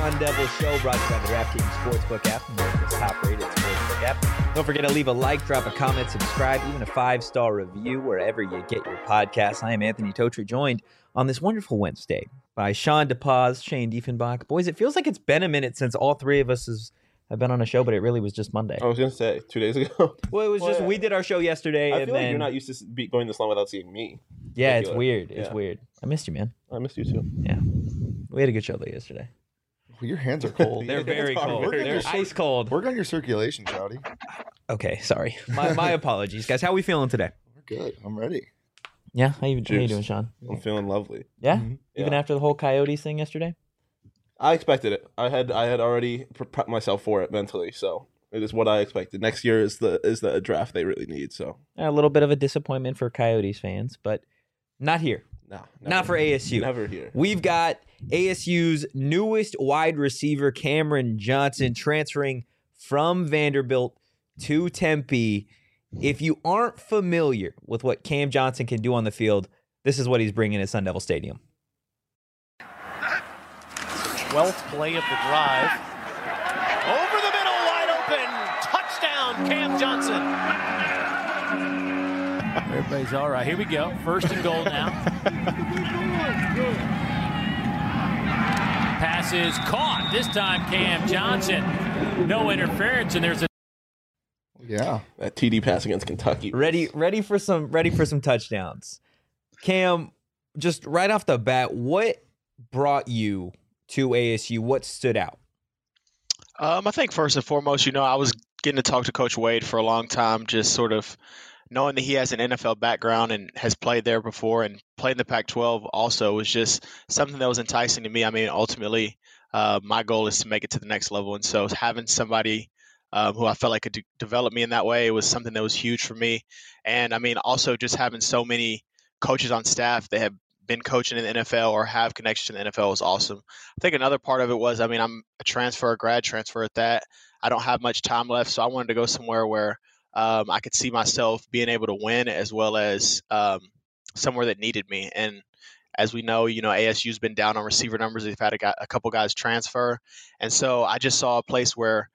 Sun Devil Show, brought to you by the DraftKings Sportsbook app, America's top-rated sportsbook app. Don't forget to leave a like, drop a comment, subscribe, even a 5-star review wherever you get your podcasts. I am Anthony Totri, joined on this wonderful Wednesday by Sean DePaz, Shane Diefenbach. Boys, it feels like it's been a minute since all three of us have been on a show, but it really was just Monday. I was going to say, 2 days ago. Well, it was just, we did our show yesterday. I and feel then, like you're not used to going this long without seeing me. Yeah, Regular. It's weird. Yeah. It's weird. I missed you, man. I missed you too. Yeah. We had a good show though yesterday. Well, your hands are cold. They're very cold. They're ice cold. Work on your circulation, Shouty. Okay, sorry. My apologies, guys. How are we feeling today? We're good. I'm ready. Yeah, how you doing, Sean? I'm feeling lovely. Yeah? Mm-hmm. Even Yeah. after the whole Coyotes thing yesterday? I expected it. I had already prepped myself for it mentally, so it is what I expected. Next year is the draft they really need. So A little bit of a disappointment for Coyotes fans, but not here. no, Not for ASU. Never here. We've got ASU's newest wide receiver, Cameron Johnson, transferring from Vanderbilt to Tempe. If you aren't familiar with what Cam Johnson can do on the field, this is what he's bringing to Sun Devil Stadium. 12th play of the drive. Over the middle, wide open. Touchdown, Cam Johnson. Everybody's all right. Here we go. First and goal now. Pass is caught. This time, Cam Johnson. No interference, and there's a Yeah. That TD pass against Kentucky. Ready for some touchdowns. Cam, just right off the bat, what brought you to ASU? What stood out? I think first and foremost, I was getting to talk to Coach Wade for a long time, just sort of knowing that he has an NFL background and has played there before and played in the Pac-12 also was just something that was enticing to me. I mean, ultimately, my goal is to make it to the next level. And so having somebody who I felt like could develop me in that way was something that was huge for me. And, I mean, also just having so many coaches on staff that have been coaching in the NFL or have connections in the NFL was awesome. I think another part of it was, I mean, I'm a grad transfer at that. I don't have much time left, so I wanted to go somewhere where I could see myself being able to win as well as somewhere that needed me. And as we know, ASU's been down on receiver numbers. They've had a couple guys transfer. And so I just saw a place where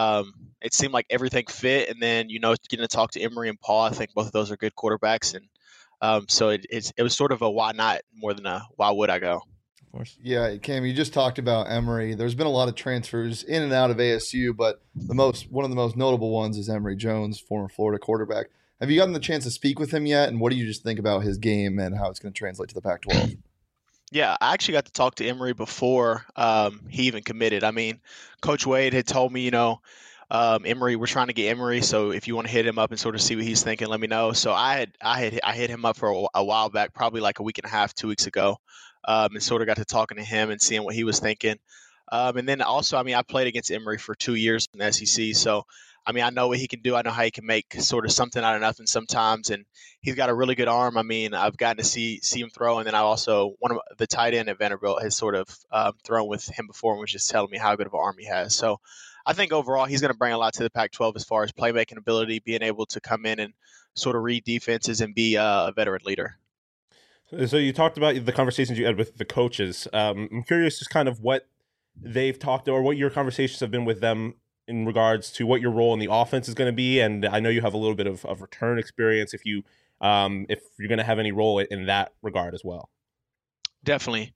it seemed like everything fit. And then, getting to talk to Emory and Paul, I think both of those are good quarterbacks. And so it was sort of a why not more than a why would I go. Of course. Yeah, Cam, you just talked about Emory. There's been a lot of transfers in and out of ASU, but one of the most notable ones is Emory Jones, former Florida quarterback. Have you gotten the chance to speak with him yet? And what do you just think about his game and how it's going to translate to the Pac-12? Yeah, I actually got to talk to Emory before he even committed. I mean, Coach Wade had told me, Emory, we're trying to get Emory, so if you want to hit him up and sort of see what he's thinking, let me know. So I hit him up for a while back, probably like a week and a half, 2 weeks ago, and sort of got to talking to him and seeing what he was thinking. And then also, I mean, I played against Emory for 2 years in the SEC, so I mean, I know what he can do. I know how he can make sort of something out of nothing sometimes, and he's got a really good arm. I mean, I've gotten to see him throw, and then I also one of the tight end at Vanderbilt has sort of thrown with him before and was just telling me how good of an arm he has. So I think overall he's going to bring a lot to the Pac-12 as far as playmaking ability, being able to come in and sort of read defenses and be a veteran leader. So you talked about the conversations you had with the coaches. I'm curious just kind of what they've talked or what your conversations have been with them in regards to what your role in the offense is going to be. And I know you have a little bit of return experience if you're going to have any role in that regard as well. Definitely.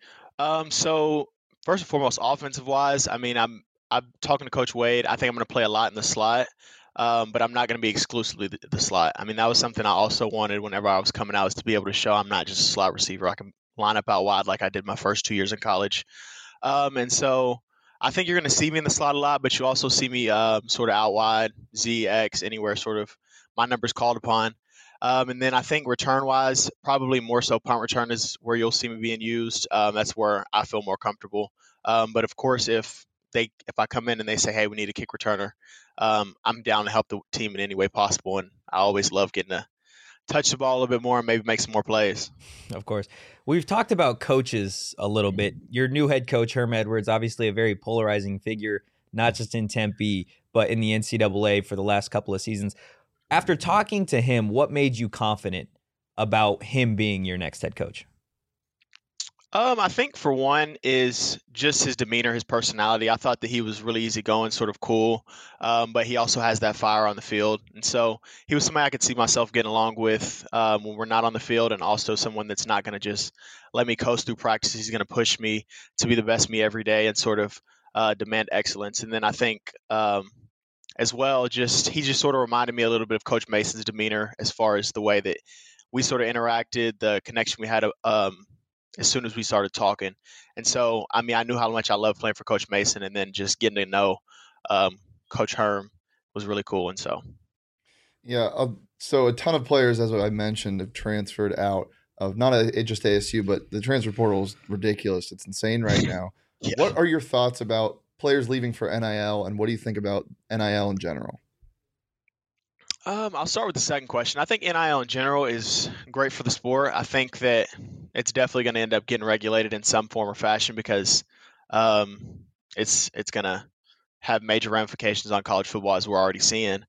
So first and foremost, offensive wise, I mean, I'm talking to Coach Wade. I think I'm going to play a lot in the slot, but I'm not going to be exclusively the slot. I mean, that was something I also wanted whenever I was coming out, is to be able to show I'm not just a slot receiver. I can line up out wide like I did my first 2 years in college. And so I think you're going to see me in the slot a lot, but you also see me sort of out wide, Z, X, anywhere sort of my number's called upon. And then I think return-wise, probably more so punt return is where you'll see me being used. That's where I feel more comfortable. But, of course, if I come in and they say, hey, we need a kick returner, I'm down to help the team in any way possible. And I always love getting to touch the ball a little bit more and maybe make some more plays. Of course. We've talked about coaches a little bit. Your new head coach, Herm Edwards, obviously a very polarizing figure, not just in Tempe, but in the NCAA for the last couple of seasons. After talking to him, what made you confident about him being your next head coach? I think for one is just his demeanor, his personality. I thought that he was really easygoing, sort of cool, but he also has that fire on the field, and so he was somebody I could see myself getting along with when we're not on the field, and also someone that's not going to just let me coast through practice. He's going to push me to be the best me every day and sort of demand excellence. And then I think as well, he just sort of reminded me a little bit of Coach Mason's demeanor as far as the way that we sort of interacted, the connection we had as soon as we started talking. And so, I mean, I knew how much I loved playing for Coach Mason, and then just getting to know Coach Herm was really cool. And so, Yeah. So a ton of players, as I mentioned, have transferred out of not just ASU, but the transfer portal is ridiculous. It's insane right now. yeah. What are your thoughts about players leaving for NIL, and what do you think about NIL in general? I'll start with the second question. I think NIL in general is great for the sport. I think that it's definitely going to end up getting regulated in some form or fashion because it's going to have major ramifications on college football, as we're already seeing.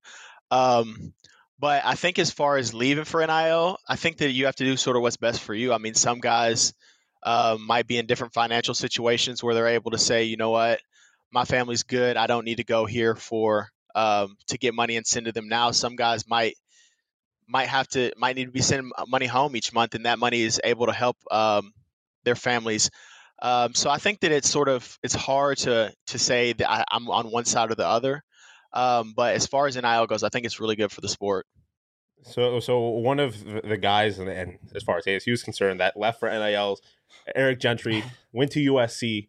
But I think as far as leaving for NIL, I think that you have to do sort of what's best for you. I mean, some guys might be in different financial situations where they're able to say, you know what, my family's good. I don't need to go here to get money and send to them now. Some guys might need to be sending money home each month, and that money is able to help their families. So I think that it's hard to say that I'm on one side or the other. But as far as NIL goes, I think it's really good for the sport. So one of the guys, and as far as ASU is concerned, that left for NILs, Eric Gentry, went to USC.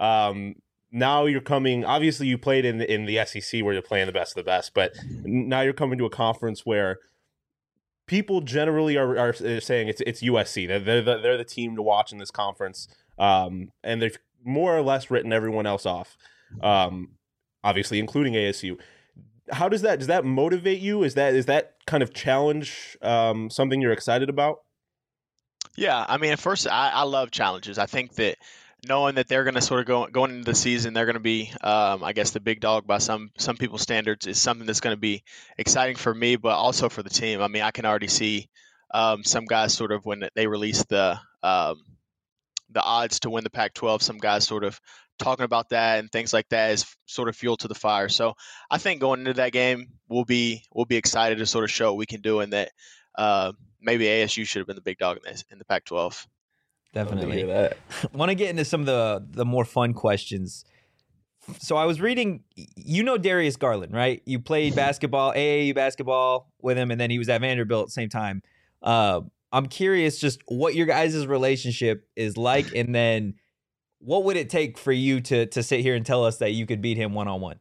Now you're coming. Obviously, you played in the SEC where you're playing the best of the best, but now you're coming to a conference where people generally are saying it's USC. They're the team to watch in this conference, and they've more or less written everyone else off, obviously including ASU. How does that motivate you? Is that kind of challenge something you're excited about? Yeah, I mean, at first, I love challenges. I think that knowing that they're going to sort of going into the season, they're going to be, I guess, the big dog by some people's standards is something that's going to be exciting for me, but also for the team. I mean, I can already see some guys sort of when they release the odds to win the Pac-12, some guys sort of talking about that and things like that is sort of fuel to the fire. So I think going into that game, we'll be excited to sort of show what we can do, and that maybe ASU should have been the big dog in the Pac-12. Definitely. Want to get into some of the more fun questions. So I was reading, Darius Garland, right? You played basketball, AAU basketball with him, and then he was at Vanderbilt at the same time. I'm curious just what your guys' relationship is like, and then what would it take for you to sit here and tell us that you could beat him one-on-one?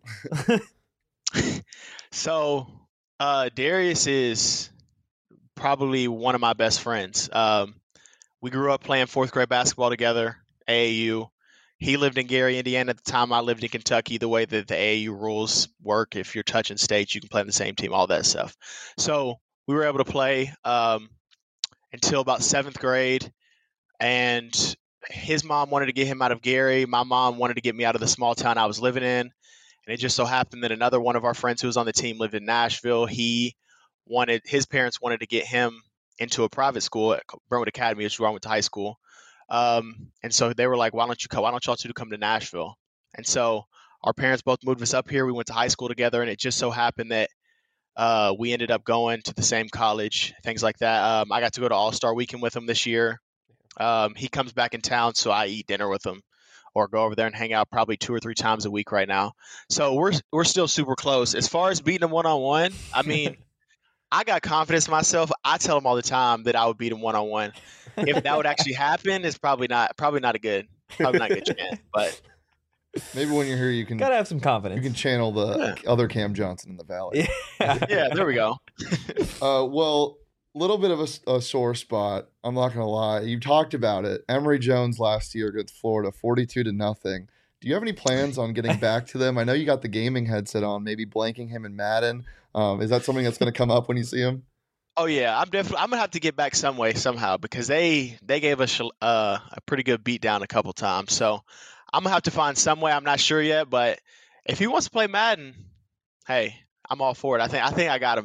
So Darius is probably one of my best friends. We grew up playing fourth grade basketball together, AAU. He lived in Gary, Indiana at the time. I lived in Kentucky. The way that the AAU rules work, if you're touching states, you can play on the same team, all that stuff. So we were able to play until about seventh grade. And his mom wanted to get him out of Gary. My mom wanted to get me out of the small town I was living in. And it just so happened that another one of our friends who was on the team lived in Nashville. His parents wanted to get him into a private school at Brentwood Academy, which is where I went to high school. And so they were like, why don't y'all two come to Nashville? And so our parents both moved us up here. We went to high school together, and it just so happened that we ended up going to the same college, things like that. I got to go to All-Star Weekend with him this year. He comes back in town, so I eat dinner with him or go over there and hang out probably 2 or 3 times a week right now. So we're still super close. As far as beating him one-on-one, I mean, I got confidence in myself. I tell him all the time that I would beat him one-on-one. If that would actually happen, it's probably not a good chance. But maybe when you're here, you can gotta have some confidence. You can channel the other Cam Johnson in the Valley. Yeah, there we go. Well, a little bit of a sore spot. I'm not gonna lie. You talked about it. Emory Jones last year against Florida, 42-0. Do you have any plans on getting back to them? I know you got the gaming headset on, maybe blanking him in Madden. Is that something that's going to come up when you see him? Oh yeah, I'm gonna have to get back somehow because they gave us a pretty good beat down a couple times. So I'm gonna have to find some way. I'm not sure yet, but if he wants to play Madden, hey, I'm all for it. I think I got him in that.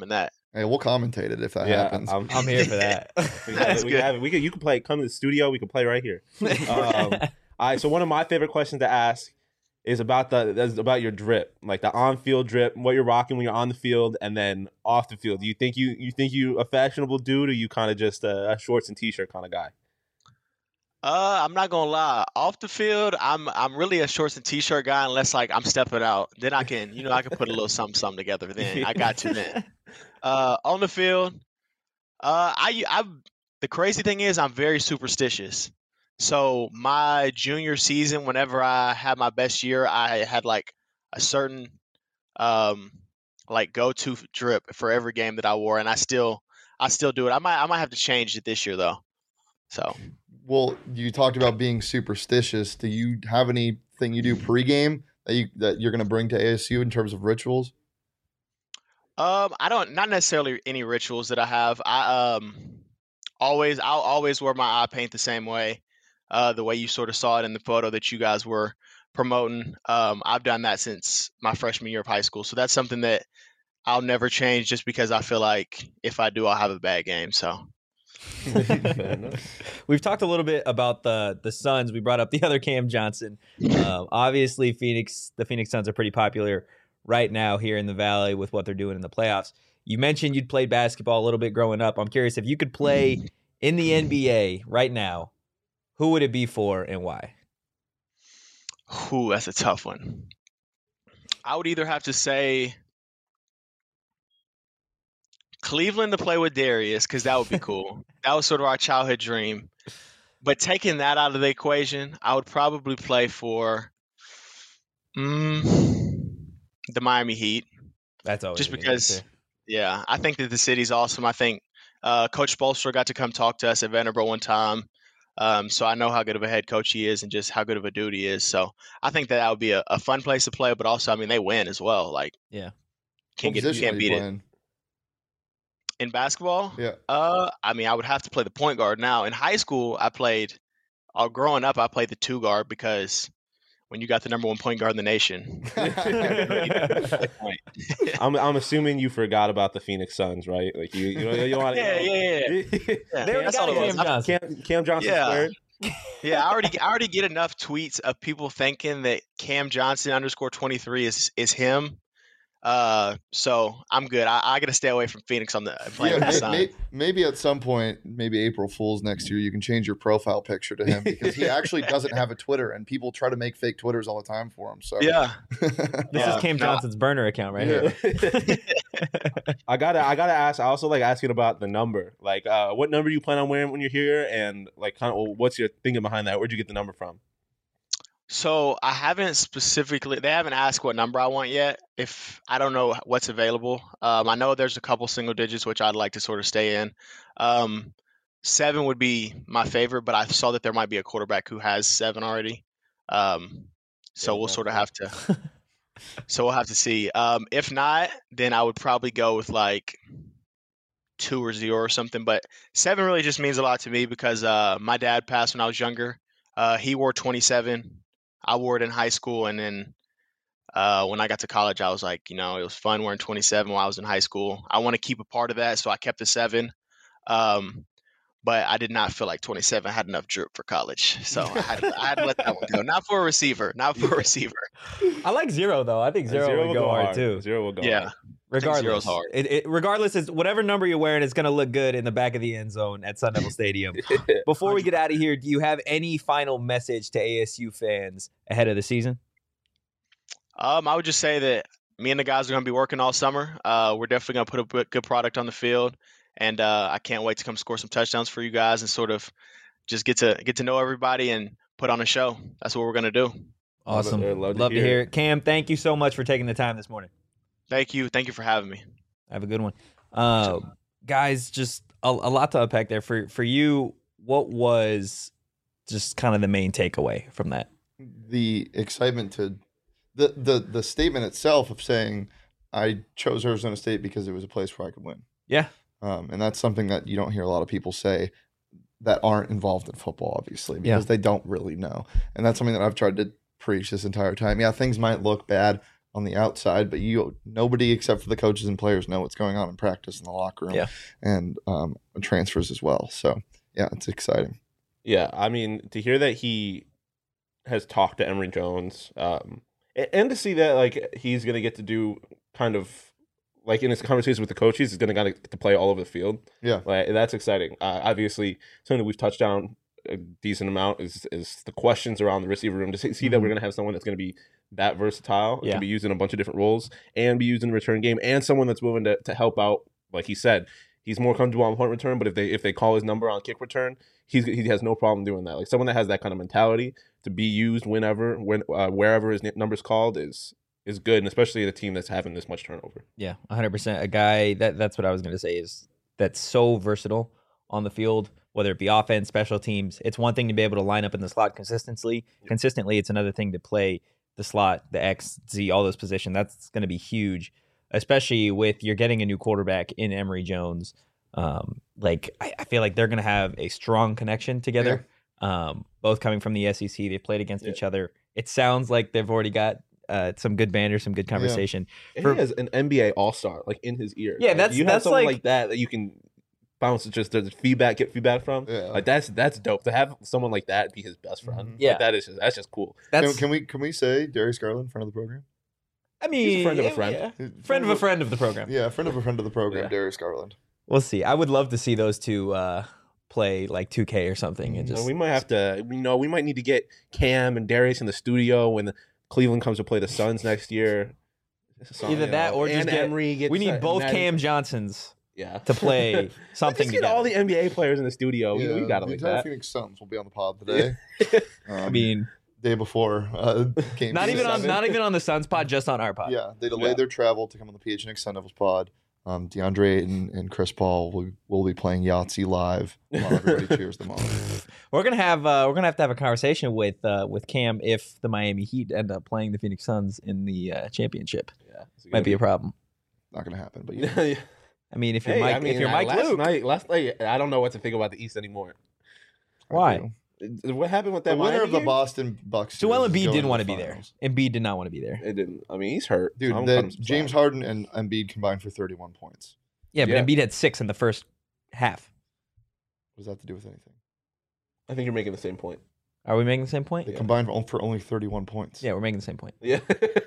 Hey, we'll commentate it if that Yeah, happens. I'm here for that. You can play. Come to the studio. We can play right here. All right. So one of my favorite questions to ask is about your drip, like the on-field drip, what you're rocking when you're on the field, and then off the field. Do you think you a fashionable dude, or you kind of just a shorts and t-shirt kind of guy? I'm not gonna lie. Off the field, I'm really a shorts and t-shirt guy unless like I'm stepping out. Then I can put a little something together. Then I got you then. On the field, I the crazy thing is I'm very superstitious. So my junior season, whenever I had my best year, I had like a certain like go-to drip for every game that I wore, and I still do it. I might have to change it this year though. So. Well, you talked about being superstitious. Do you have anything you do pregame that you're going to bring to ASU in terms of rituals? Not necessarily any rituals that I have. I'll always wear my eye paint the same way, the way you sort of saw it in the photo that you guys were promoting. I've done that since my freshman year of high school, so that's something that I'll never change just because I feel like if I do, I'll have a bad game. So. We've talked a little bit about the Suns. We brought up the other Cam Johnson. Obviously, the Phoenix Suns are pretty popular right now here in the Valley with what they're doing in the playoffs. You mentioned you'd played basketball a little bit growing up. I'm curious if you could play in the NBA right now, who would it be for and why? Ooh, that's a tough one. I would either have to say Cleveland to play with Darius, because that would be cool. That was sort of our childhood dream. But taking that out of the equation, I would probably play for the Miami Heat. That's always just because, yeah, I think that the city's awesome. I think Coach Spoelstra got to come talk to us at Vanderbilt one time. So I know how good of a head coach he is and just how good of a dude he is. So I think that would be a fun place to play. But also, I mean, they win as well. Like, yeah, can't beat it. In basketball? Yeah. I mean, I would have to play the point guard. Now, in high school, growing up, I played the 2 guard because when you got the number 1 point guard in the nation. I'm assuming you forgot about the Phoenix Suns, right? Like you want to. Yeah. That's all it was. Cam Johnson squared. Yeah, I already get enough tweets of people thinking that Cam Johnson _23 is him. So I'm good. I got to stay away from Phoenix on the playing with the Sun. Maybe at some point, maybe April Fool's next year, you can change your profile picture to him because he actually doesn't have a Twitter, and people try to make fake Twitters all the time for him. So yeah, this is Cam Johnson's burner account right here. I gotta ask. I also like asking about the number. Like, what number do you plan on wearing when you're here, and like, kind of, what's your thinking behind that? Where'd you get the number from? So I haven't they haven't asked what number I want yet. If I don't know what's available. I know there's a couple single digits, which I'd like to sort of stay in. 7 would be my favorite, but I saw that there might be a quarterback who has 7 already. So we'll sort of have to, so we'll have to see. If not, then I would probably go with like 2 or 0 or something, but 7 really just means a lot to me because, my dad passed when I was younger. He wore 27. I wore it in high school, and then when I got to college, I was like, it was fun wearing 27 while I was in high school. I want to keep a part of that, so I kept the 7. But I did not feel like 27 had enough drip for college, so I had to let that one go. Not for a receiver. I like 0 though. I think 0 would go hard too. 0 will go yeah. hard. Regardless, hard. Regardless, is whatever number you're wearing, it's going to look good in the back of the end zone at Sun Devil Stadium. Before we get out of here, do you have any final message to ASU fans ahead of the season? I would just say that me and the guys are going to be working all summer. We're definitely going to put a good product on the field, and I can't wait to come score some touchdowns for you guys and sort of just get to know everybody and put on a show. That's what we're going to do. Awesome. Love to hear it. Cam, thank you so much for taking the time this morning. Thank you for having me. Have a good one. Guys, just a lot to unpack there. For you, what was just kind of the main takeaway from that? The excitement to the statement itself of saying I chose Arizona State because it was a place where I could win. Yeah. And that's something that you don't hear a lot of people say that aren't involved in football, obviously, because they don't really know. And that's something that I've tried to preach this entire time. Yeah, things might look bad on the outside, but nobody except for the coaches and players know what's going on in practice in the locker room and transfers as well. So yeah, it's exciting. Yeah, I mean, to hear that he has talked to Emory Jones, and to see that like he's gonna get to do kind of like in his conversations with the coaches, he's gonna get to play all over the field. Yeah, like that's exciting. Obviously, something that we've touched on a decent amount is the questions around the receiver room. To see that we're gonna have someone that's gonna be that versatile, can be used in a bunch of different roles, and be used in the return game, and someone that's willing to help out. Like he said, he's more comfortable on punt return, but if they call his number on kick return, he has no problem doing that. Like someone that has that kind of mentality to be used wherever his number's called is good, and especially the team that's having this much turnover. Yeah, 100%. A guy that's what I was going to say is that's so versatile on the field, whether it be offense, special teams. It's one thing to be able to line up in the slot consistently. It's another thing to play the slot, the X, Z, all those positions. That's going to be huge, especially with you're getting a new quarterback in Emory Jones. I feel like they're going to have a strong connection together. Both coming from the SEC, they've played against each other. It sounds like they've already got some good banter, some good conversation. He has an NBA All-Star like in his ear. Yeah, you have someone like that you can bounce just the get feedback from. Yeah. Like that's dope to have someone like that be his best friend. Yeah, like, that's just cool. Can we say Darius Garland, friend of the program? I mean, he's a friend of a friend. Yeah. Friend of a friend of the program. Yeah, friend of a friend of the program, Darius Garland. We'll see. I would love to see those two play like 2K or something. And just we might have to. We might need to get Cam and Darius in the studio when Cleveland comes to play the Suns next year. Either that or just Emory. We need both Cam Johnsons. To play something just get all the NBA players in the studio. Yeah, we got to like that. Phoenix Suns will be on the pod today. I mean, day before game. Not even on the Suns pod, just on our pod. Yeah, they delayed their travel to come on the PHNX Sun Devils pod. DeAndre and Chris Paul will be playing Yahtzee live while everybody cheers them on. We're gonna have to have a conversation with Cam if the Miami Heat end up playing the Phoenix Suns in the championship. Yeah, might be a problem. Not gonna happen, but yeah. I mean, if you're Mike Luke, last night, I don't know what to think about the East anymore. Why? What happened with that? The winner of the Boston Bucks. Joel Embiid didn't want to be there. Embiid did not want to be there. It didn't. I mean, he's hurt. Dude, James Harden and Embiid combined for 31 points. Yeah, but Embiid had 6 in the first half. What does that have to do with anything? I think you're making the same point. Are we making the same point? They combined for only 31 points. Yeah, we're making the same point. Yeah.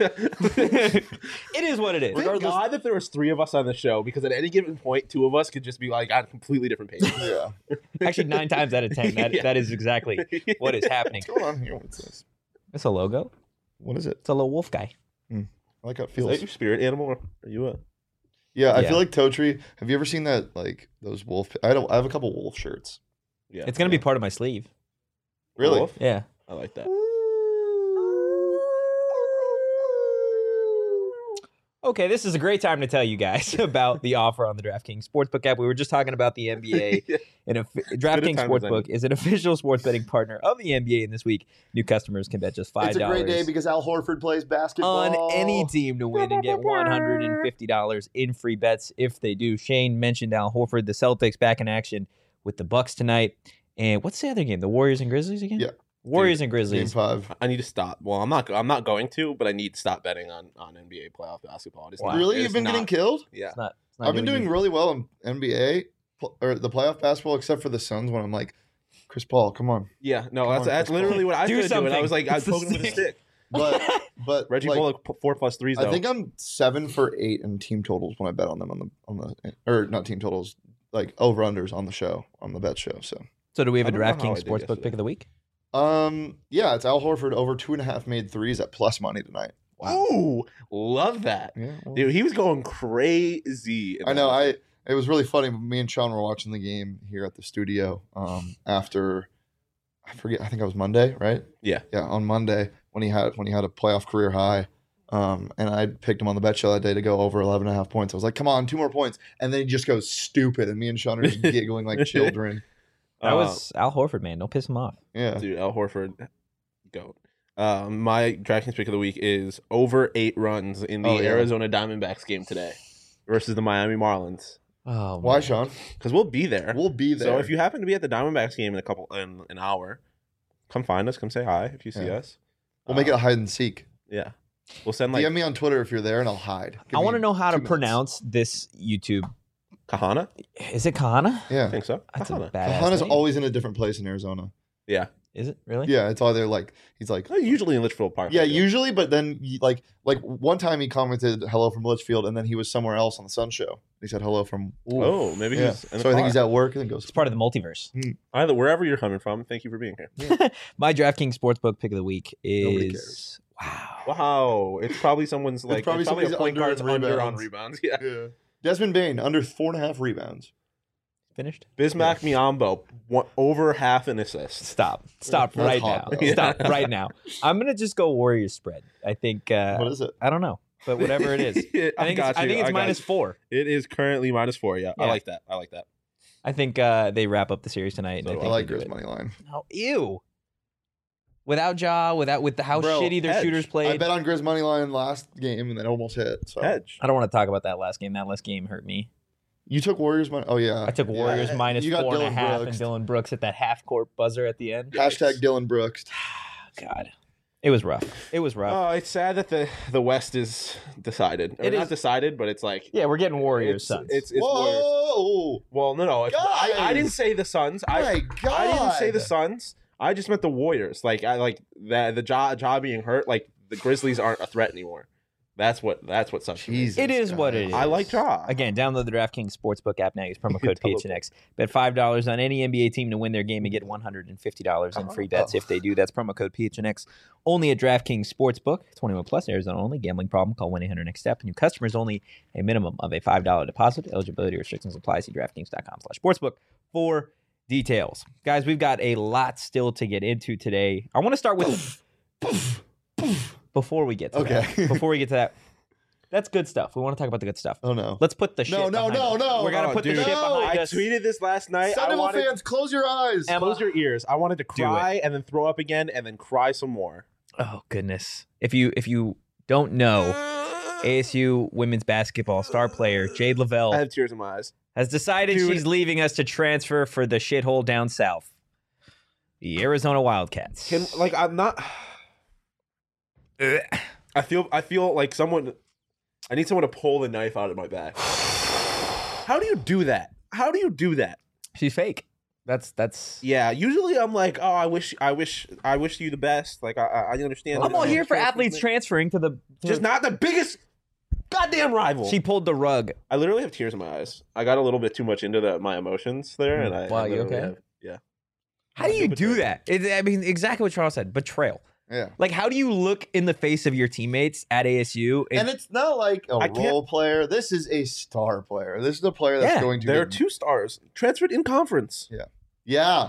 It is what it is. Thank God that there was 3 of us on the show, because at any given point, 2 of us could just be like on completely different pages. Yeah. Actually, 9 times out of 10, that is exactly what is happening. What's going on here? What's this? It's a logo. What is it? It's a little wolf guy. I like how it feels. Is that your spirit animal, or are you a... Yeah, I feel like Totri. Have you ever seen that, like, those wolf... I have a couple wolf shirts. Yeah. It's going to be part of my sleeve. Really? Wolf? Yeah. I like that. Okay, this is a great time to tell you guys about the offer on the DraftKings Sportsbook app. We were just talking about the NBA. DraftKings Sportsbook is an official sports betting partner of the NBA, and this week, new customers can bet just $5. It's a great day because Al Horford plays basketball. On any team to win and get $150 in free bets if they do. Shane mentioned Al Horford, the Celtics back in action with the Bucks tonight. And what's the other game? The Warriors and Grizzlies again? Yeah. Warriors and Grizzlies. Game 5. I need to stop. Well, I'm not going to, but I need to stop betting on NBA playoff basketball. Really? You've been getting killed? Yeah. It's not I've been doing really well in NBA or the playoff basketball, except for the Suns when I'm like, Chris Paul, come on. Yeah, no, that's literally what I do. Doing. I was like, I was poking him with a stick. But Reggie Bullock 4+3s though. I think I'm 7 for 8 in team totals when I bet on them on the or not team totals, like over unders on the show, on the bet show. So do we have a DraftKings Sportsbook pick of the week? Yeah, it's Al Horford over 2.5 made threes at plus money tonight. Wow. Ooh, love that. Yeah, well, dude, he was going crazy. I know. It was really funny. Me and Sean were watching the game here at the studio. After I think it was Monday, right? Yeah. Yeah, on Monday when he had a playoff career high. And I picked him on the bet show that day to go over 11.5 points. I was like, come on, 2 more points. And then he just goes stupid. And me and Sean are just giggling like children. That was Al Horford, man. Don't piss him off. Yeah. Dude, Al Horford, goat. My DraftKings pick of the week is over 8 runs in the Arizona Diamondbacks game today versus the Miami Marlins. Oh, why, Sean? Because we'll be there. We'll be there. So if you happen to be at the Diamondbacks game in an hour, come find us. Come say hi if you see us. We'll make it a hide and seek. Yeah. We'll send like DM me on Twitter if you're there, and I'll hide. Give I want to me know how to 2 minutes. pronounce this YouTube. Kahana. Is it Kahana? I Yeah, think so. That's a Kahana. badass Kahana's name. always in a different place in Arizona. Yeah. Is it really? Yeah, it's either like he's like Usually in Litchfield Park. yeah, usually, but then like one time he commented hello from Litchfield, and then he was somewhere else on the Sun Show. He said hello from. Oh, maybe yeah. he's in So the I think he's car. at work and then goes. It's part of the multiverse. Either wherever you're coming from. Thank you for being here. My DraftKings Sportsbook pick of the week Nobody is cares. wow. Wow, it's probably someone's like probably it's probably a somebody's point guard's under in under on rebounds. rebounds. Yeah. Yeah. Desmond Bain under 4.5 rebounds. Finished? Bismack Miyambo over half an assist. Stop That's right hot, now. though. Stop right now. I'm gonna just go Warriors spread. I think. What is it? I don't know, but whatever it is. I think it's -4. It is currently -4. Yeah, I Yeah. like that. I like that. I think they wrap up the series tonight. And So I do think I like they do Grizz it. money line. No, ew. Without Ja, with how Bro, shitty their hedge. shooters I played. bet on Grizz money line last game and then almost hit. So Hedge. I don't want to talk about that last game. That last game hurt me. you took Warriors money. Oh yeah, I took Warriors Yeah, minus you got 4.5, Dylan and Brooks. Dylan Brooks at that half court buzzer at the end. Hashtag Dylan Brooks. God, it was rough. It was rough. Oh, it's sad that the West is decided. Or It not is. decided, but it's like Yeah, we're getting Warriors, it's, Suns. It's Warriors. Whoa! Well, no. I Guys! didn't say the Suns. My God! I didn't say the Suns. I just meant the Warriors. Like I like that the Ja being hurt. Like the Grizzlies aren't a threat anymore. That's what sucks. Jesus, It is what guys. it is. I like Ja. Again, download the DraftKings Sportsbook app now. Use promo code Double PHNX. Bet $5 on any NBA team to win their game and get $150 in free bets if they do. That's promo code PHNX. Only at DraftKings Sportsbook. 21 plus, Arizona only. Gambling problem? Call 1-800-NEXT-STEP. New customers only. A minimum of a $5 deposit. Eligibility restrictions apply. See DraftKings.com/sportsbook for details. Guys, we've got a lot still to get into today. I want to start with before we get to that. Okay. Before we get to that. That's good stuff. We want to talk about the good stuff. Oh no! Let's put the shit No, behind us. no. We're going to Oh, put the dude. shit No. behind I us. tweeted this last night. I Sentinel wanted fans, close your eyes. Emma, close your ears. I wanted to Do it. cry and then throw up again and then cry some more. Oh, goodness. If you don't know, ASU women's basketball star player Jade I Lavelle have tears in my eyes. has decided Dude. she's leaving us to transfer for the shithole down south. The Arizona Wildcats. I'm not. I feel like someone. I need someone to pull the knife out of my back. How do you do that? How do you do that? She's fake. That's Yeah, usually I'm like, oh, I wish you the best. Like I understand. I'm all here for athletes transferring to the just not the biggest goddamn rival. She pulled the rug. I literally have tears in my eyes. I got a little bit too much into my emotions there, and I. Wow, I you literally okay? have- yeah. How do you do Betrayal. that? I mean, exactly what Charles said. Betrayal. Yeah. Like, how do you look in the face of your teammates at ASU? And it's not like a I can't- role player. This is a star player. This is a player that's Yeah, going to. There are get- 2 stars transferred in conference. Yeah.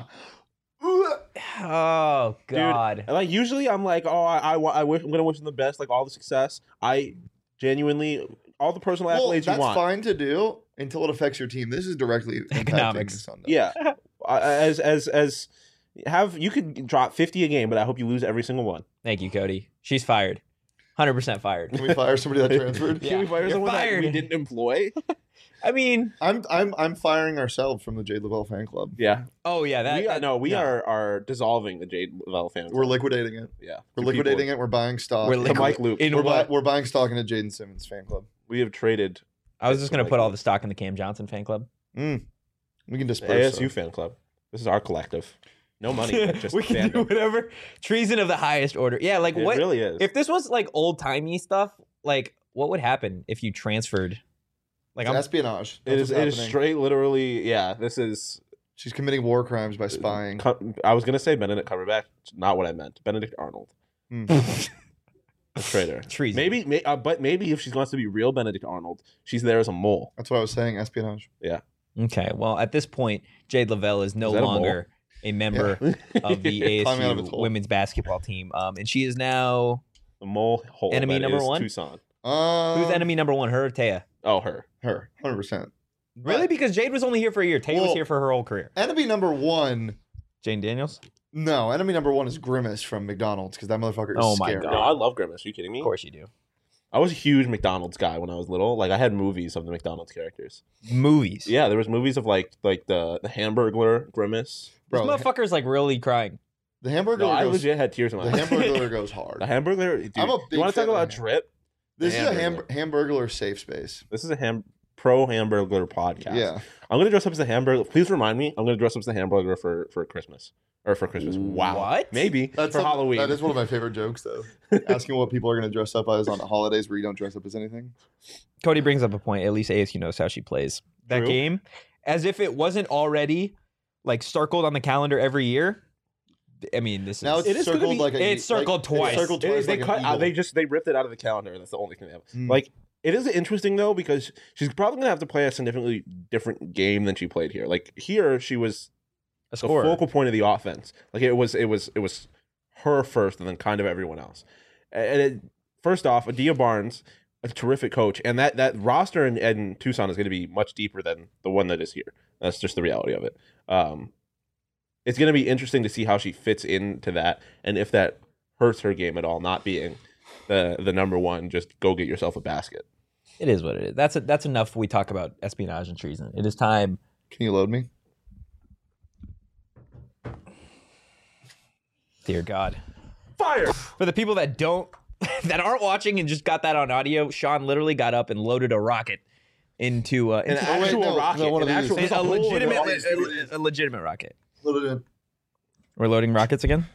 oh God. And like usually I'm like, oh, I'm gonna wish them the best, like all the success. I genuinely all the personal Well, accolades that's you want. fine to do until it affects your team. This is directly impacting Economics. the Sun. Yeah, as have you could drop 50 a game, but I hope you lose every single one. Thank you, Cody. She's fired. 100% fired. Can we fire somebody that transferred? Yeah, Can we fire you're someone that we fired. didn't employ? I mean, I'm firing ourselves from the Jade Lavelle fan club. Yeah, oh yeah, we are dissolving the Jade Lavelle fans. We're liquidating it. yeah, We're The liquidating people- it. We're buying stock. We're The liquid- Mike Luke. in we're, what? we're buying stock in a Jaden Simmons fan club. We have traded I was just gonna Mike put all Luke. the stock in the Cam Johnson fan club. We can the disperse. ASU fan club. This is our collective. No money, but just we can do fandom. whatever. Treason of the highest order. Yeah, like It what? really is. If this was like old timey stuff, like what would happen if you transferred? Like It's I'm espionage. it is That's what's happening. straight, literally. Yeah, this is. She's committing war crimes by spying. I was gonna say Benedict Cumberbatch. Not what I meant. Benedict Arnold. Hmm. A traitor. treason. But maybe if she wants to be real Benedict Arnold, she's there as a mole. That's what I was saying. Espionage. Okay. Well, at this point, Jade Lavelle is no Is that a longer a member of the Climbing out of its ASU hole. women's basketball team, and she is now The mole hole. Enemy that number is one? Tucson. who's enemy number one? Her or Taya? Oh, her. Her, 100%. Really? Because Jade was only here for a year. Taya was Well- here for her whole career. Enemy number one. Jane Daniels. No, enemy number one is Grimace from McDonald's because that motherfucker is Oh my scary. God. No, I love Grimace. Are you kidding me? Of course you do. I was a huge McDonald's guy when I was little. Like I had movies of the McDonald's characters. Movies. Yeah, there was movies of like the Hamburglar Grimace. This Bro, motherfucker's like really crying. The Hamburglar No, I goes. legit had tears in my The eyes. Hamburglar goes hard. The Hamburglar. Dude, I'm a big you want to fan talk of about the drip? This is a Hamburglar. Hamburglar safe space. This is a pro Hamburglar podcast. Yeah. I'm gonna dress up as a Hamburglar. Please remind me. I'm gonna dress up as a Hamburglar for Christmas or for Christmas. Wow. What? Maybe for Halloween. That is one of my favorite jokes, though. Asking what people are going to dress up as on the holidays where you don't dress up as anything. Cody brings up a point. At least ASU knows how she plays that True. game, as if it wasn't already like circled on the calendar every year. I mean, this Now is it's It is gonna circled be- like a. it's circled twice. It's circled It twice. is, they like cut an out. eagle. They ripped it out of the calendar, and that's the only thing they have. Mm. Like, it is interesting though because she's probably gonna have to play a significantly different game than she played here. Like here, she was a the scorer. focal point of the offense. Like it was her first, and then kind of everyone else. First off, Adia Barnes, a terrific coach, and that roster in Tucson is going to be much deeper than the one that is here. That's just the reality of it. It's going to be interesting to see how she fits into that, and if that hurts her game at all, not being the number one. Just go get yourself a basket. It is what it is. That's enough. We talk about espionage and treason. It is time. Can you load me? Dear God. Fire! For the people that that aren't watching and just got that on audio, Sean literally got up and loaded a rocket into An into actual no, rocket. no, one of an these. actual, there's a hole in it. legitimate a legitimate rocket. Load it in. We're loading rockets again.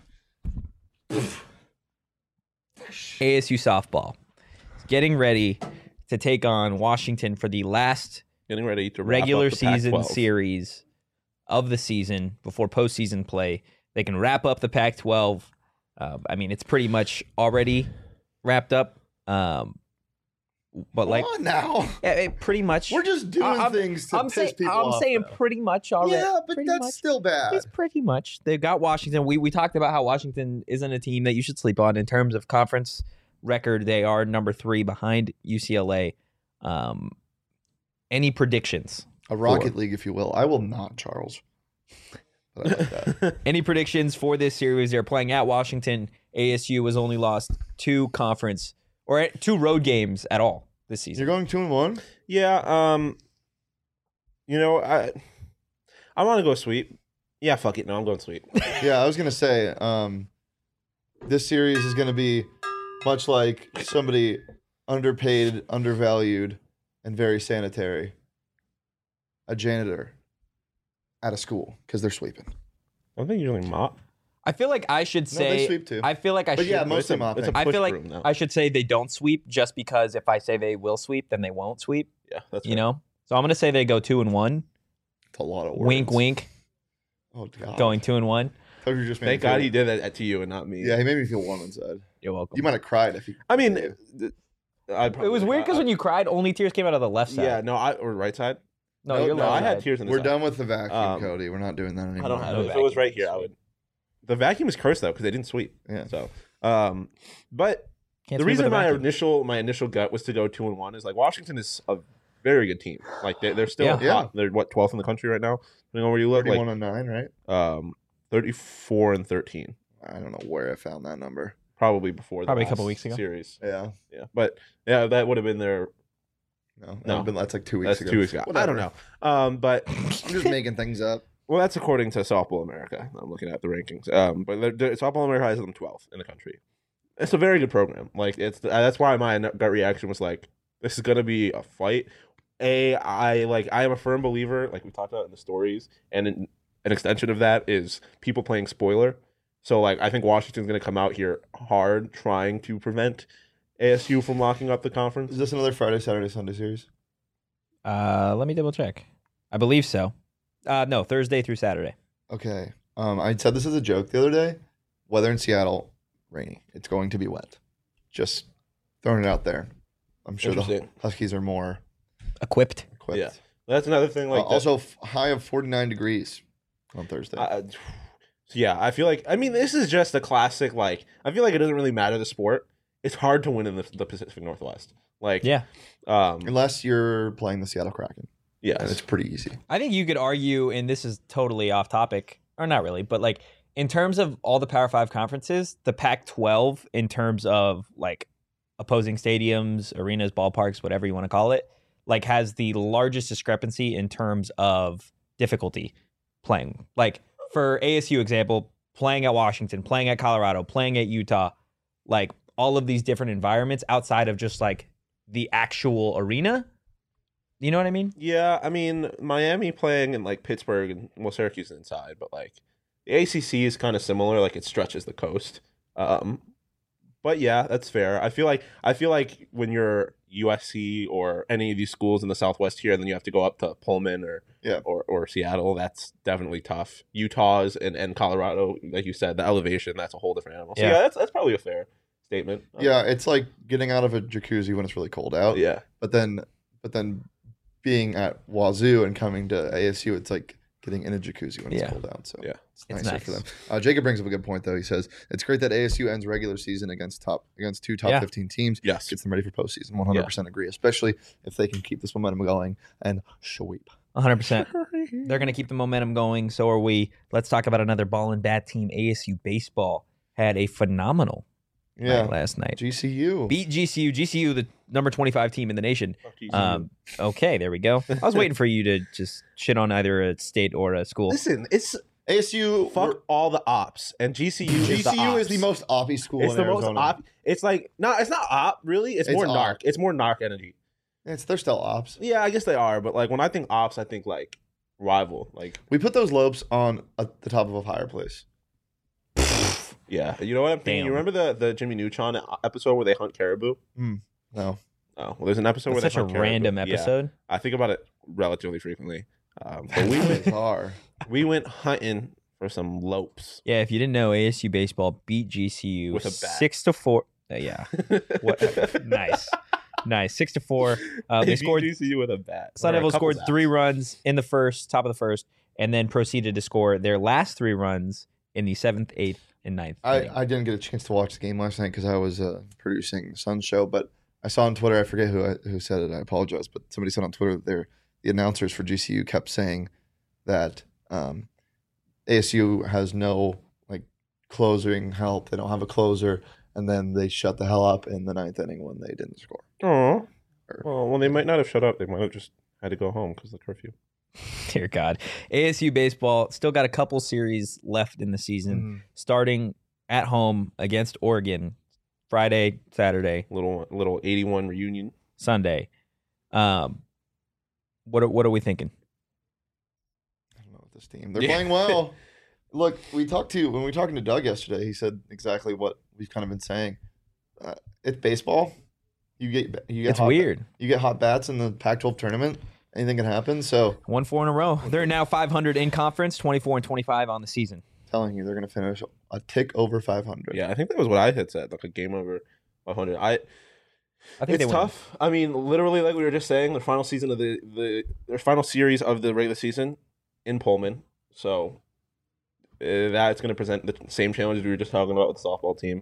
ASU softball is getting ready to take on Washington for the last Getting ready to wrap regular up the season Pac-12. series of the season before postseason play. They can wrap up the Pac-12. I mean, it's pretty much already wrapped up. But like, Come on now. pretty much. We're just doing things to piss people off. I'm saying though. pretty much already. Yeah, but pretty that's much. still bad. It's pretty much. They've got Washington. We talked about how Washington isn't a team that you should sleep on in terms of conference record. They are number 3 behind UCLA. Any predictions? A Rocket League, if you will. I will not, Charles. But I like that. Any predictions for this series? They're playing at Washington. ASU has only lost 2 conference or 2 road games at all this season. You're going 2-1? Yeah, you know, I want to go sweep. Yeah, fuck it. No, I'm going sweep. Yeah, I was gonna say, this series is gonna be much like somebody underpaid, undervalued, and very sanitary. A janitor at a school because they're sweeping. I think usually mop. I feel like I should No, they say. sweep too. I feel like I But should. yeah, most It's a- of them it's a I push feel like broom now. I should say they don't sweep just because if I say they will sweep, then they won't sweep. Yeah, that's You know. So I'm gonna say they go 2-1. It's a lot of words. Wink, wink. Oh god. Going 2-1. Thought you just made Thank me feel- God he did that to you and not me. Yeah, he made me feel warm inside. You're welcome. You might have cried if you. I mean, It was weird because I- when you cried, only tears came out of the left side. yeah, no, or right side. No, No, your no, left I had side. tears in the We're side. done with the vacuum, Um, Cody. We're not doing that anymore. I don't have No it. If it was vacuum. right here, I would. The vacuum is cursed though because they didn't sweep. Yeah. So, but Can't the sweep reason with a my vacuum. initial gut was to go 2-1 is like Washington is a very good team. Like they're still Yeah. hot. Yeah. They're what 12th in the country right now. Depending on where you look, 31-9, right? like 34-13. I don't know where I found that number. Probably before Probably a the couple last weeks ago. series. Yeah. Yeah, but yeah, that would have been their. No, that's like 2 weeks That's ago. 2 weeks ago. I don't know. But I'm just making things up. well, that's according to Softball America. I'm looking at the rankings. But Softball America has them 12th in the country. It's a very good program. Like that's why my gut reaction was like, this is gonna be a fight. I am a firm believer, like we talked about in the stories, and an extension of that is people playing spoiler. So like I think Washington's gonna come out here hard, trying to prevent ASU from locking up the conference. Is this another Friday, Saturday, Sunday series? Let me double check. I believe so. No, Thursday through Saturday. Okay. I said this as a joke the other day. Weather in Seattle, rainy. It's going to be wet. Just throwing it out there. I'm sure the Interesting. Huskies are more Equipped. equipped. Yeah. That's another thing. Like Also, high of 49 degrees on Thursday. So yeah, I feel like this is just a classic. Like I feel like it doesn't really matter the sport. It's hard to win in the Pacific Northwest. Like Yeah. Unless you're playing the Seattle Kraken. And it's yes, pretty easy. I think you could argue, and this is totally off topic, or not really, but like in terms of all the Power 5 conferences, the Pac-12 in terms of like opposing stadiums, arenas, ballparks, whatever you want to call it, like has the largest discrepancy in terms of difficulty playing. Like for ASU example, playing at Washington, playing at Colorado, playing at Utah, like all of these different environments outside of just like the actual arena. You know what I mean? Yeah, I mean, Miami playing in like Pittsburgh and Syracuse is inside, but like the ACC is kind of similar, like it stretches the coast. But yeah, that's fair. I feel like when you're USC or any of these schools in the Southwest here, then you have to go up to Pullman or Seattle. That's definitely tough. Utah's and Colorado, like you said, the elevation, that's a whole different animal. So yeah, that's probably a fair statement. Yeah, it's like getting out of a jacuzzi when it's really cold out. Yeah. But then being at Wazoo and coming to ASU, it's like getting in a jacuzzi when it's cold out. So yeah, it's nicer for them. Jacob brings up a good point though. He says it's great that ASU ends regular season against two top 15 teams. Yes, gets them ready for postseason. 100% agree, especially if they can keep this momentum going and sweep. 100%. They're going to keep the momentum going. So are we. Let's talk about another ball and bat team. ASU baseball had a phenomenal night last night. GCU beat GCU, the number 25 team in the nation. Okay, there we go. I was waiting for you to just shit on either a state or a school. Listen, it's ASU. Fuck all the ops, and GCU is the most oppy school. It's in the Arizona. most op. It's like it's not op really. It's more narc. It's more narc energy. They're still ops. Yeah, I guess they are, but like when I think ops, I think like rival. Like we put those lopes on the top of a fireplace. Yeah, you know what I'm thinking? You remember the Jimmy Neutron episode where they hunt caribou? No. Oh, well, there's an episode where That's they such hunt a random caribou. episode. Yeah, I think about it relatively frequently. But we went hunting for some lopes. Yeah, if you didn't know, ASU baseball beat GCU with a bat. 6-4. Yeah, nice. 6-4. They scored. GCU with a bat. Sun Devils scored 3 runs in the top of the first, and then proceeded to score their last 3 runs in the 7th, 8th, and 9th. I didn't get a chance to watch the game last night because I was producing the Sun show, but I saw on Twitter, I forget who said it, I apologize, but somebody said on Twitter that the announcers for GCU kept saying that ASU has no like closing help. They don't have a closer, and then they shut the hell up in the 9th inning when they didn't score. Oh, well, they might not have shut up. They might have just had to go home because of the curfew. Dear God. ASU baseball still got a couple series left in the season, starting at home against Oregon Friday, Saturday. Little 81 reunion. Sunday. What are we thinking? I don't know what this team. They're playing well. Look, when we talking to Doug yesterday, he said exactly what we've kind of been saying. It's baseball. You get it's weird. You get hot bats in the Pac-12 tournament. Anything can happen. So 1-4 in a row. They're now 500 in conference, 24-25 on the season. Telling you, they're going to finish a tick over 500. Yeah, I think that was what I had said, like a game over 500. I think it's tough. I mean, literally, like we were just saying, the final season of their final series of the regular season in Pullman. So that's going to present the same challenges we were just talking about with the softball team.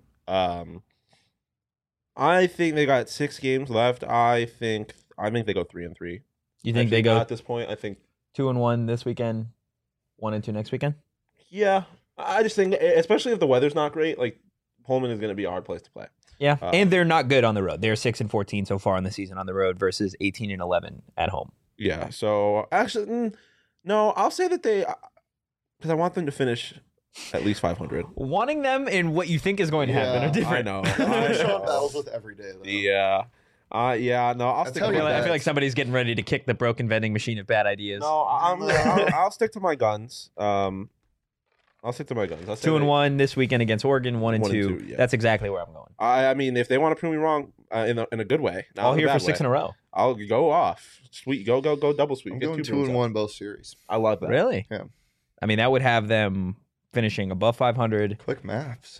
I think they got 6 games left. I think they go 3-3. You think they go at this point? I think 2-1 this weekend, 1-2 next weekend. Yeah, I just think, especially if the weather's not great, like Pullman is going to be a hard place to play. Yeah, and they're not good on the road. They're 6-14 so far in the season on the road versus 18-11 at home. Yeah. So actually, no, I'll say that because I want them to finish at least 500. Wanting them in what you think is going to happen are different. I know. They're showing battles with every day, though. Yeah. No, I'll stick. I feel like somebody's getting ready to kick the broken vending machine of bad ideas. No, I'll stick to my guns. I'll stick to my guns. 2-1 this weekend against Oregon. 1-2. Yeah. That's exactly where I'm going. I mean, if they want to prove me wrong in a good way, I'll here for 6 in a row. I'll go off. Sweet, go double sweep. I'm going 2-1 both series. I love that. Really? Yeah. I mean, that would have them finishing above 500. Quick maths.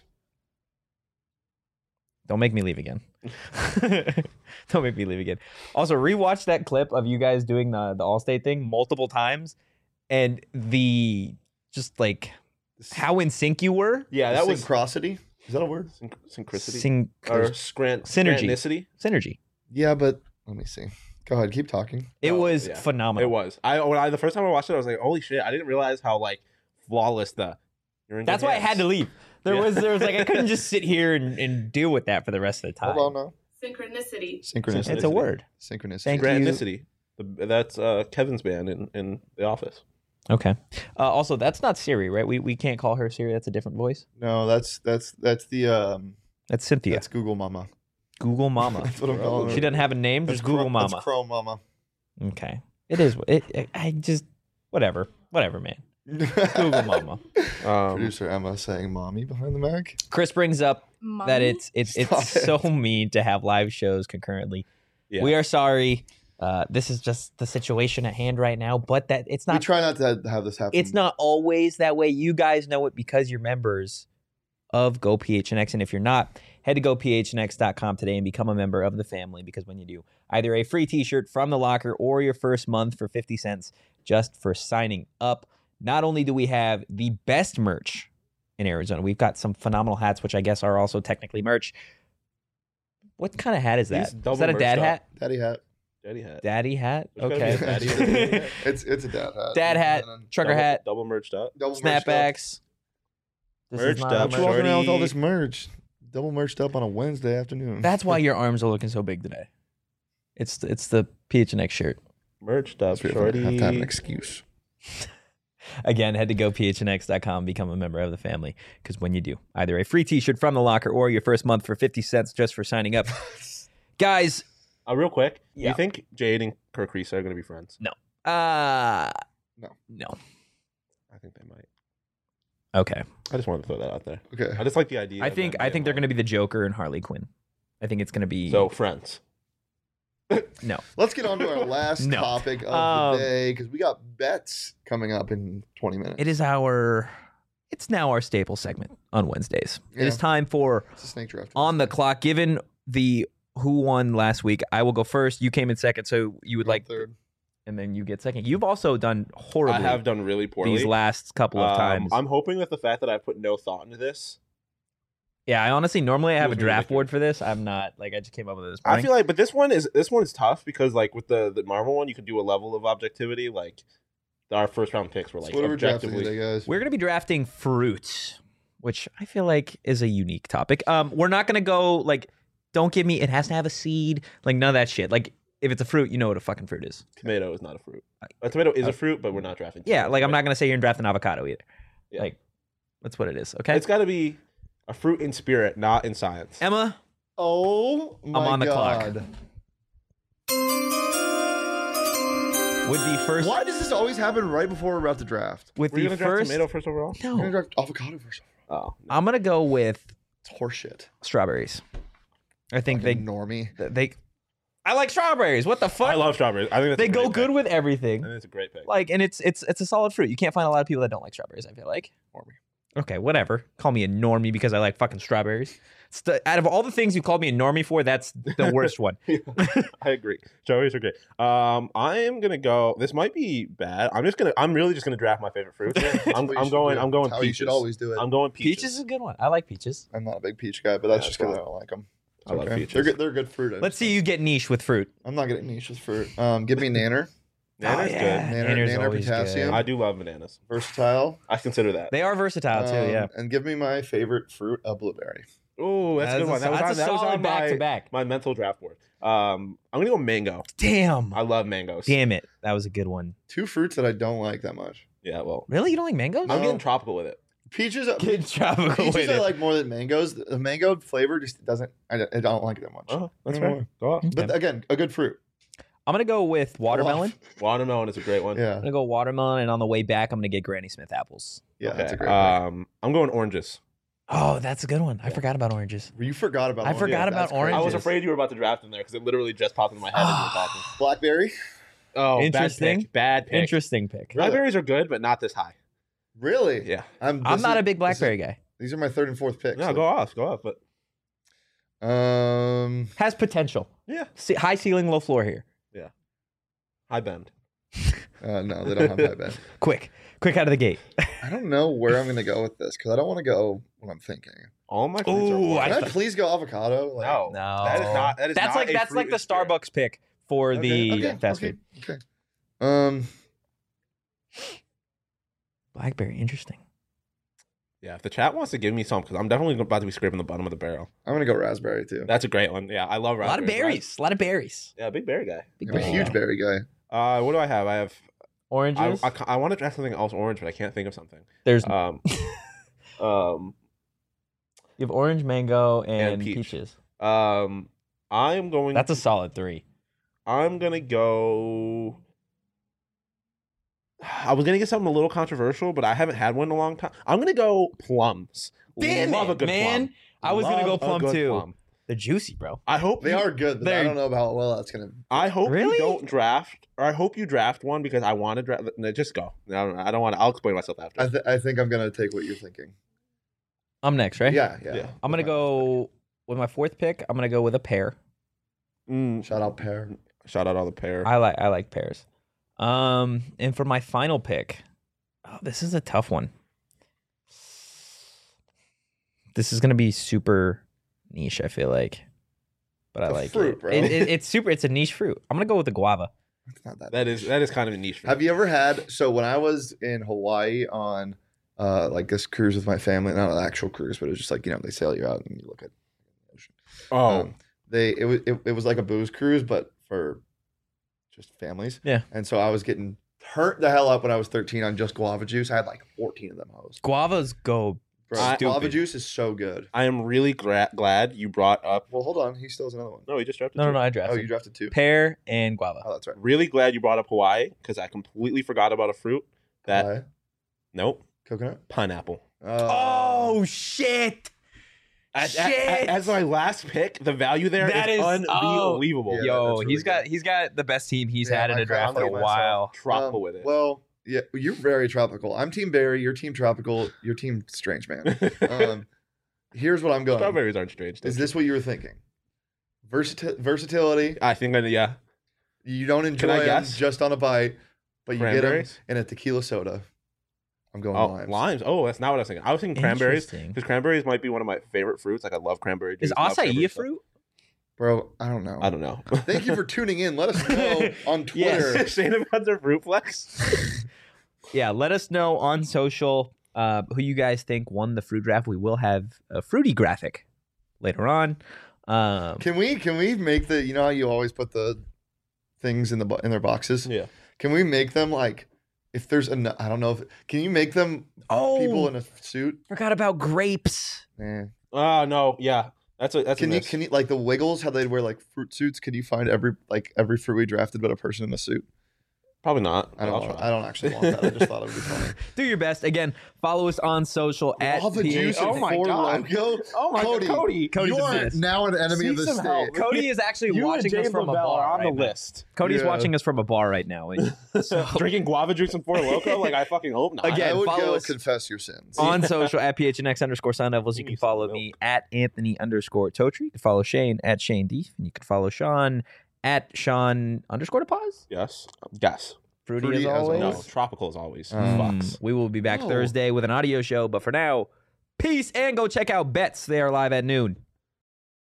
Don't make me leave again. Don't make me leave again. Also, rewatch that clip of you guys doing the All-State thing multiple times, and just like how in sync you were. Yeah, that was synchronicity. Is that a word? Synchricity or synergy. Synergy. Yeah, but let me see. Go ahead, keep talking. It was phenomenal. It was. The first time I watched it, I was like, "Holy shit!" I didn't realize how like flawless That's why I had to leave. There was like I couldn't just sit here and deal with that for the rest of the time. Hold on now. Synchronicity. It's a word. Synchronicity. Thank you. That's Kevin's band in The Office. Okay. Also, that's not Siri, right? We can't call her Siri. That's a different voice. No, that's the That's Cynthia. that's Google Mama. Google Mama. That's what I'm calling her. She doesn't have a name. That's Just Google Mama. That's Chrome Mama. Okay. It is. I just whatever, man. Google Mama. Producer Emma saying "mommy" behind the mic. Chris brings up that it's Stop so mean to have live shows concurrently. Yeah. We are sorry. This is just the situation at hand right now, but that it's We not. try not to have this happen. It's not always that way. You guys know it because you're members of GoPHNX, and if you're not, head to gophnx.com today and become a member of the family, because when you do, either a free t-shirt from the locker or your first month for 50 cents just for signing up. Not only do we have the best merch in Arizona, we've got some phenomenal hats, which I guess are also technically merch. What kind of hat is that? These double Is that a merched dad up. hat? Daddy hat. Daddy hat. Daddy hat? There's gotta be a daddy Okay. hat. It's a dad hat. Dad hat, And then trucker hat, Double merched up. double merched up. snapbacks. This is Merched not a up, What's walking around with all Shorty. this merch? Double merched up on a Wednesday afternoon. That's why your arms are looking so big today. It's the PHNX shirt. Merched up, That's weird. I have to have an shorty. excuse. Again, head to gophnx.com, become a member of the family, because when you do, either a free t-shirt from the locker or your first month for 50 cents just for signing up. Guys, Real quick, do Yeah. you think Jade and Kirk Reese are going to be friends? no. No. I think they might. Okay. I just wanted to throw that out there. Okay. I just like the idea. I of think them they're being going to be the Joker and Harley Quinn. I think it's going to be So friends. no. Let's get on to our last No. topic of Um, the day, because we got bets coming up in 20 minutes. It's now our staple segment on Wednesdays. It is Yeah. time for It's a snake draft. On the Clock. Given the who won last week, I will go first. You came in second, so you would like third. and then you get second. You've also done horribly I have done really poorly these last couple of times. I'm hoping that the fact that I put no thought into this. Yeah, I honestly normally I have a Feels draft ridiculous. board for this. I'm not like I just came up with it this I morning. feel like, but this one is tough because like with the Marvel one, you could do a level of objectivity. Like our first round picks were like So what are we drafting objectively. today, guys? We're gonna be drafting fruit, which I feel like is a unique topic. We're not gonna go like don't give me it has to have a seed, like none of that shit. Like if it's a fruit, you know what a fucking fruit is. Tomato is not a fruit. A tomato is a fruit, but we're not drafting. Yeah, tomato. like I'm not gonna say you're drafting avocado either. Yeah. Like that's what it is. Okay. It's got to be a fruit in spirit, not in science. Emma, Oh my on the clock. God. with the first Why does this always happen right before we're about to draft? with Were you the gonna draft first tomato first overall? We're gonna No. draft avocado first. Oh, I'm gonna go with It's horseshit. strawberries. I think Fucking normie. they I like strawberries. What the fuck? I love strawberries. I think that's they a go great good pick. with everything. I think it's a great pick. Like, and it's a solid fruit. You can't find a lot of people that don't like strawberries. I feel like. Normie. Okay, whatever. Call me a normie because I like fucking strawberries. Out of all the things you called me a normie for, that's the worst one. I agree. Strawberries are great. I am gonna go. This might be bad. I'm really just gonna draft my favorite fruit. I'm going That's how peaches. you should always do it. I'm going peaches. Peaches is a good one. I like peaches. I'm not a big peach guy, but that's Yeah, just because I that's don't like them. I love peaches. They're good fruit. I Let's just- see you get niche with fruit. I'm not getting niche with fruit. Give me nanner. Nanner's Nanner's Nanner always potassium. good. I do love bananas. Versatile. I consider that. They are versatile too. Yeah. And give me my favorite fruit, a blueberry. Oh, that's a good one. That was that's on, a that was solid on back to back. my mental draft board. I'm gonna go mango. Damn. I love mangoes. Damn it. That was a good one. Two fruits that I don't like that much. Yeah, well, Really? You don't like mangoes? I'm No. getting tropical with it. Peaches. Get tropical with Peaches I it. like more than mangoes. The mango flavor just doesn't. I don't like it that much. Oh, that's I don't fair. know. Go off. But again, a good fruit. I'm gonna go with watermelon. Watermelon is a great one. Yeah, I'm gonna go watermelon, and on the way back, I'm gonna get Granny Smith apples. yeah, Okay. that's a great. I'm going oranges. Oh, that's a good one. I forgot about oranges. pick. You forgot about. I orange. forgot Yeah, about that's crazy. oranges. I was afraid you were about to draft in there because it literally just popped into my head as you were talking. Blackberry. Oh, Interesting. Bad pick. Interesting pick. Really? Blackberries are good, but not this high. Really? Yeah. I'm not a big blackberry guy. These are my third and fourth picks. No, go off. But Has potential. yeah, High ceiling, low floor here. high bend. No, they don't have high bend. Quick out of the gate. I don't know where I'm gonna go with this because I don't want to go what I'm thinking. All my fruits are Ooh, orange. Can I please go avocado? Like, No, No, that is not. That is that's not like a that's fruit like the in spirit. Starbucks pick for the Okay, fast okay, food. Okay. Blackberry, interesting. Yeah, if the chat wants to give me some, because I'm definitely about to be scraping the bottom of the barrel. I'm gonna go raspberry too. That's a great one. Yeah, I love A lot of raspberries. berries. A lot of berries. Yeah, big berry guy. Big I'm a berry huge guy. berry guy. What do I have? I have Oranges. I want to draft something else orange, but I can't think of something. There's You have orange, mango, and peach. peaches. I'm going. That's a solid 3. I'm gonna go. I was gonna get something a little controversial, but I haven't had one in a long time. I'm gonna go plums. Damn Love it, a good man! plum. I was gonna go Love a plum good too. plum. They're juicy, bro. I hope They are good, but I don't know about how well that's gonna. I hope Really? you don't draft, or I hope you draft one because I want to draft. No, just go. I don't want to. I'll explain myself after. I think I'm gonna take what you're thinking. I'm next, right? Yeah. I'm gonna go with my 4th pick. I'm gonna go with a pear. Shout out pear. Shout out all the pear. I like pears. And for my final pick, this is a tough one. This is gonna be super niche, I feel like, but I like fruit, it. bro. It's super. It's a niche fruit. I'm gonna go with the guava. It's not that. That is kind of a niche. Have you ever had? So when I was in Hawaii on like this cruise with my family, not an actual cruise, but it was just like they sail you out and you look at the ocean. Oh, It was like a booze cruise, but for just families. Yeah. And so I was getting turned the hell up when I was 13 on just guava juice. I had like 14 of them. Guavas go. Bro, Stupid. guava juice is so good. I am really glad you brought up. Well, hold on. He still has another one. No, he just drafted. No, two. I Oh, drafted. you drafted 2. Pear and guava. Oh, that's right. Really glad you brought up Hawaii because I completely forgot about a fruit that. Pie, Nope, coconut. pineapple. Oh shit! As my last pick, the value there That is is- unbelievable. Yeah, Yo, that's really he's got the best team he's Yeah, had in my a draft family, in a myself. while. Tropical with it. Well, yeah, you're very tropical. I'm Team Berry. Your Team Tropical. Your Team Strange Man. Here's what I'm going. Strawberries aren't strange. Is this what you were thinking? Versatility. I think yeah. You don't enjoy Can I them guess? just on a bite, but you get them Cranberries? in a tequila soda. I'm going Oh, limes. limes. Oh, that's not what I was thinking. I was thinking cranberries Interesting. because cranberries might be one of my favorite fruits. Like I love cranberry juice. Is love acai cranberry a stuff. fruit? Bro, I don't know. I don't know. Thank you for tuning in. Let us know on Twitter. Yes. Shane about their fruit flex. Yeah, let us know on social who you guys think won the fruit draft. We will have a fruity graphic later on. Can we make the how you always put the things in their boxes? Yeah. Can we make them like if there's I don't know if can you make them people in a suit? Forgot about grapes. Oh no, yeah. That's Can you like the Wiggles how they wear like fruit suits? Can you find every fruit we drafted but a person in a suit? Probably not. I I'll don't. try. I don't actually want that. I just thought it would be funny. Do your best. Again, follow us on social at Guava PA. juice Oh and my 4 God. logo. Oh my Cody, God, Cody. Cody's you the are best. now an enemy of the Seek some state. help. Cody is actually You and watching us James from a Lavelle bar are on right the now. list. Cody's Yeah. watching us from a bar right now. Drinking guava juice and Four Loko? Like I fucking hope not. Again, I would follow go us confess your sins. on social at PHNX_Sun Devils. You Give can me some follow milk. me at Anthony_Totri. You can follow Shane at Shane Deef. And you can follow Sean at Sean_DePause. Yes. Yes. Fruity, Fruity as as always. No. Tropical as always. Mm. Fox. We will be back Oh. Thursday with an audio show. But for now, peace and go check out Bets. They are live at noon.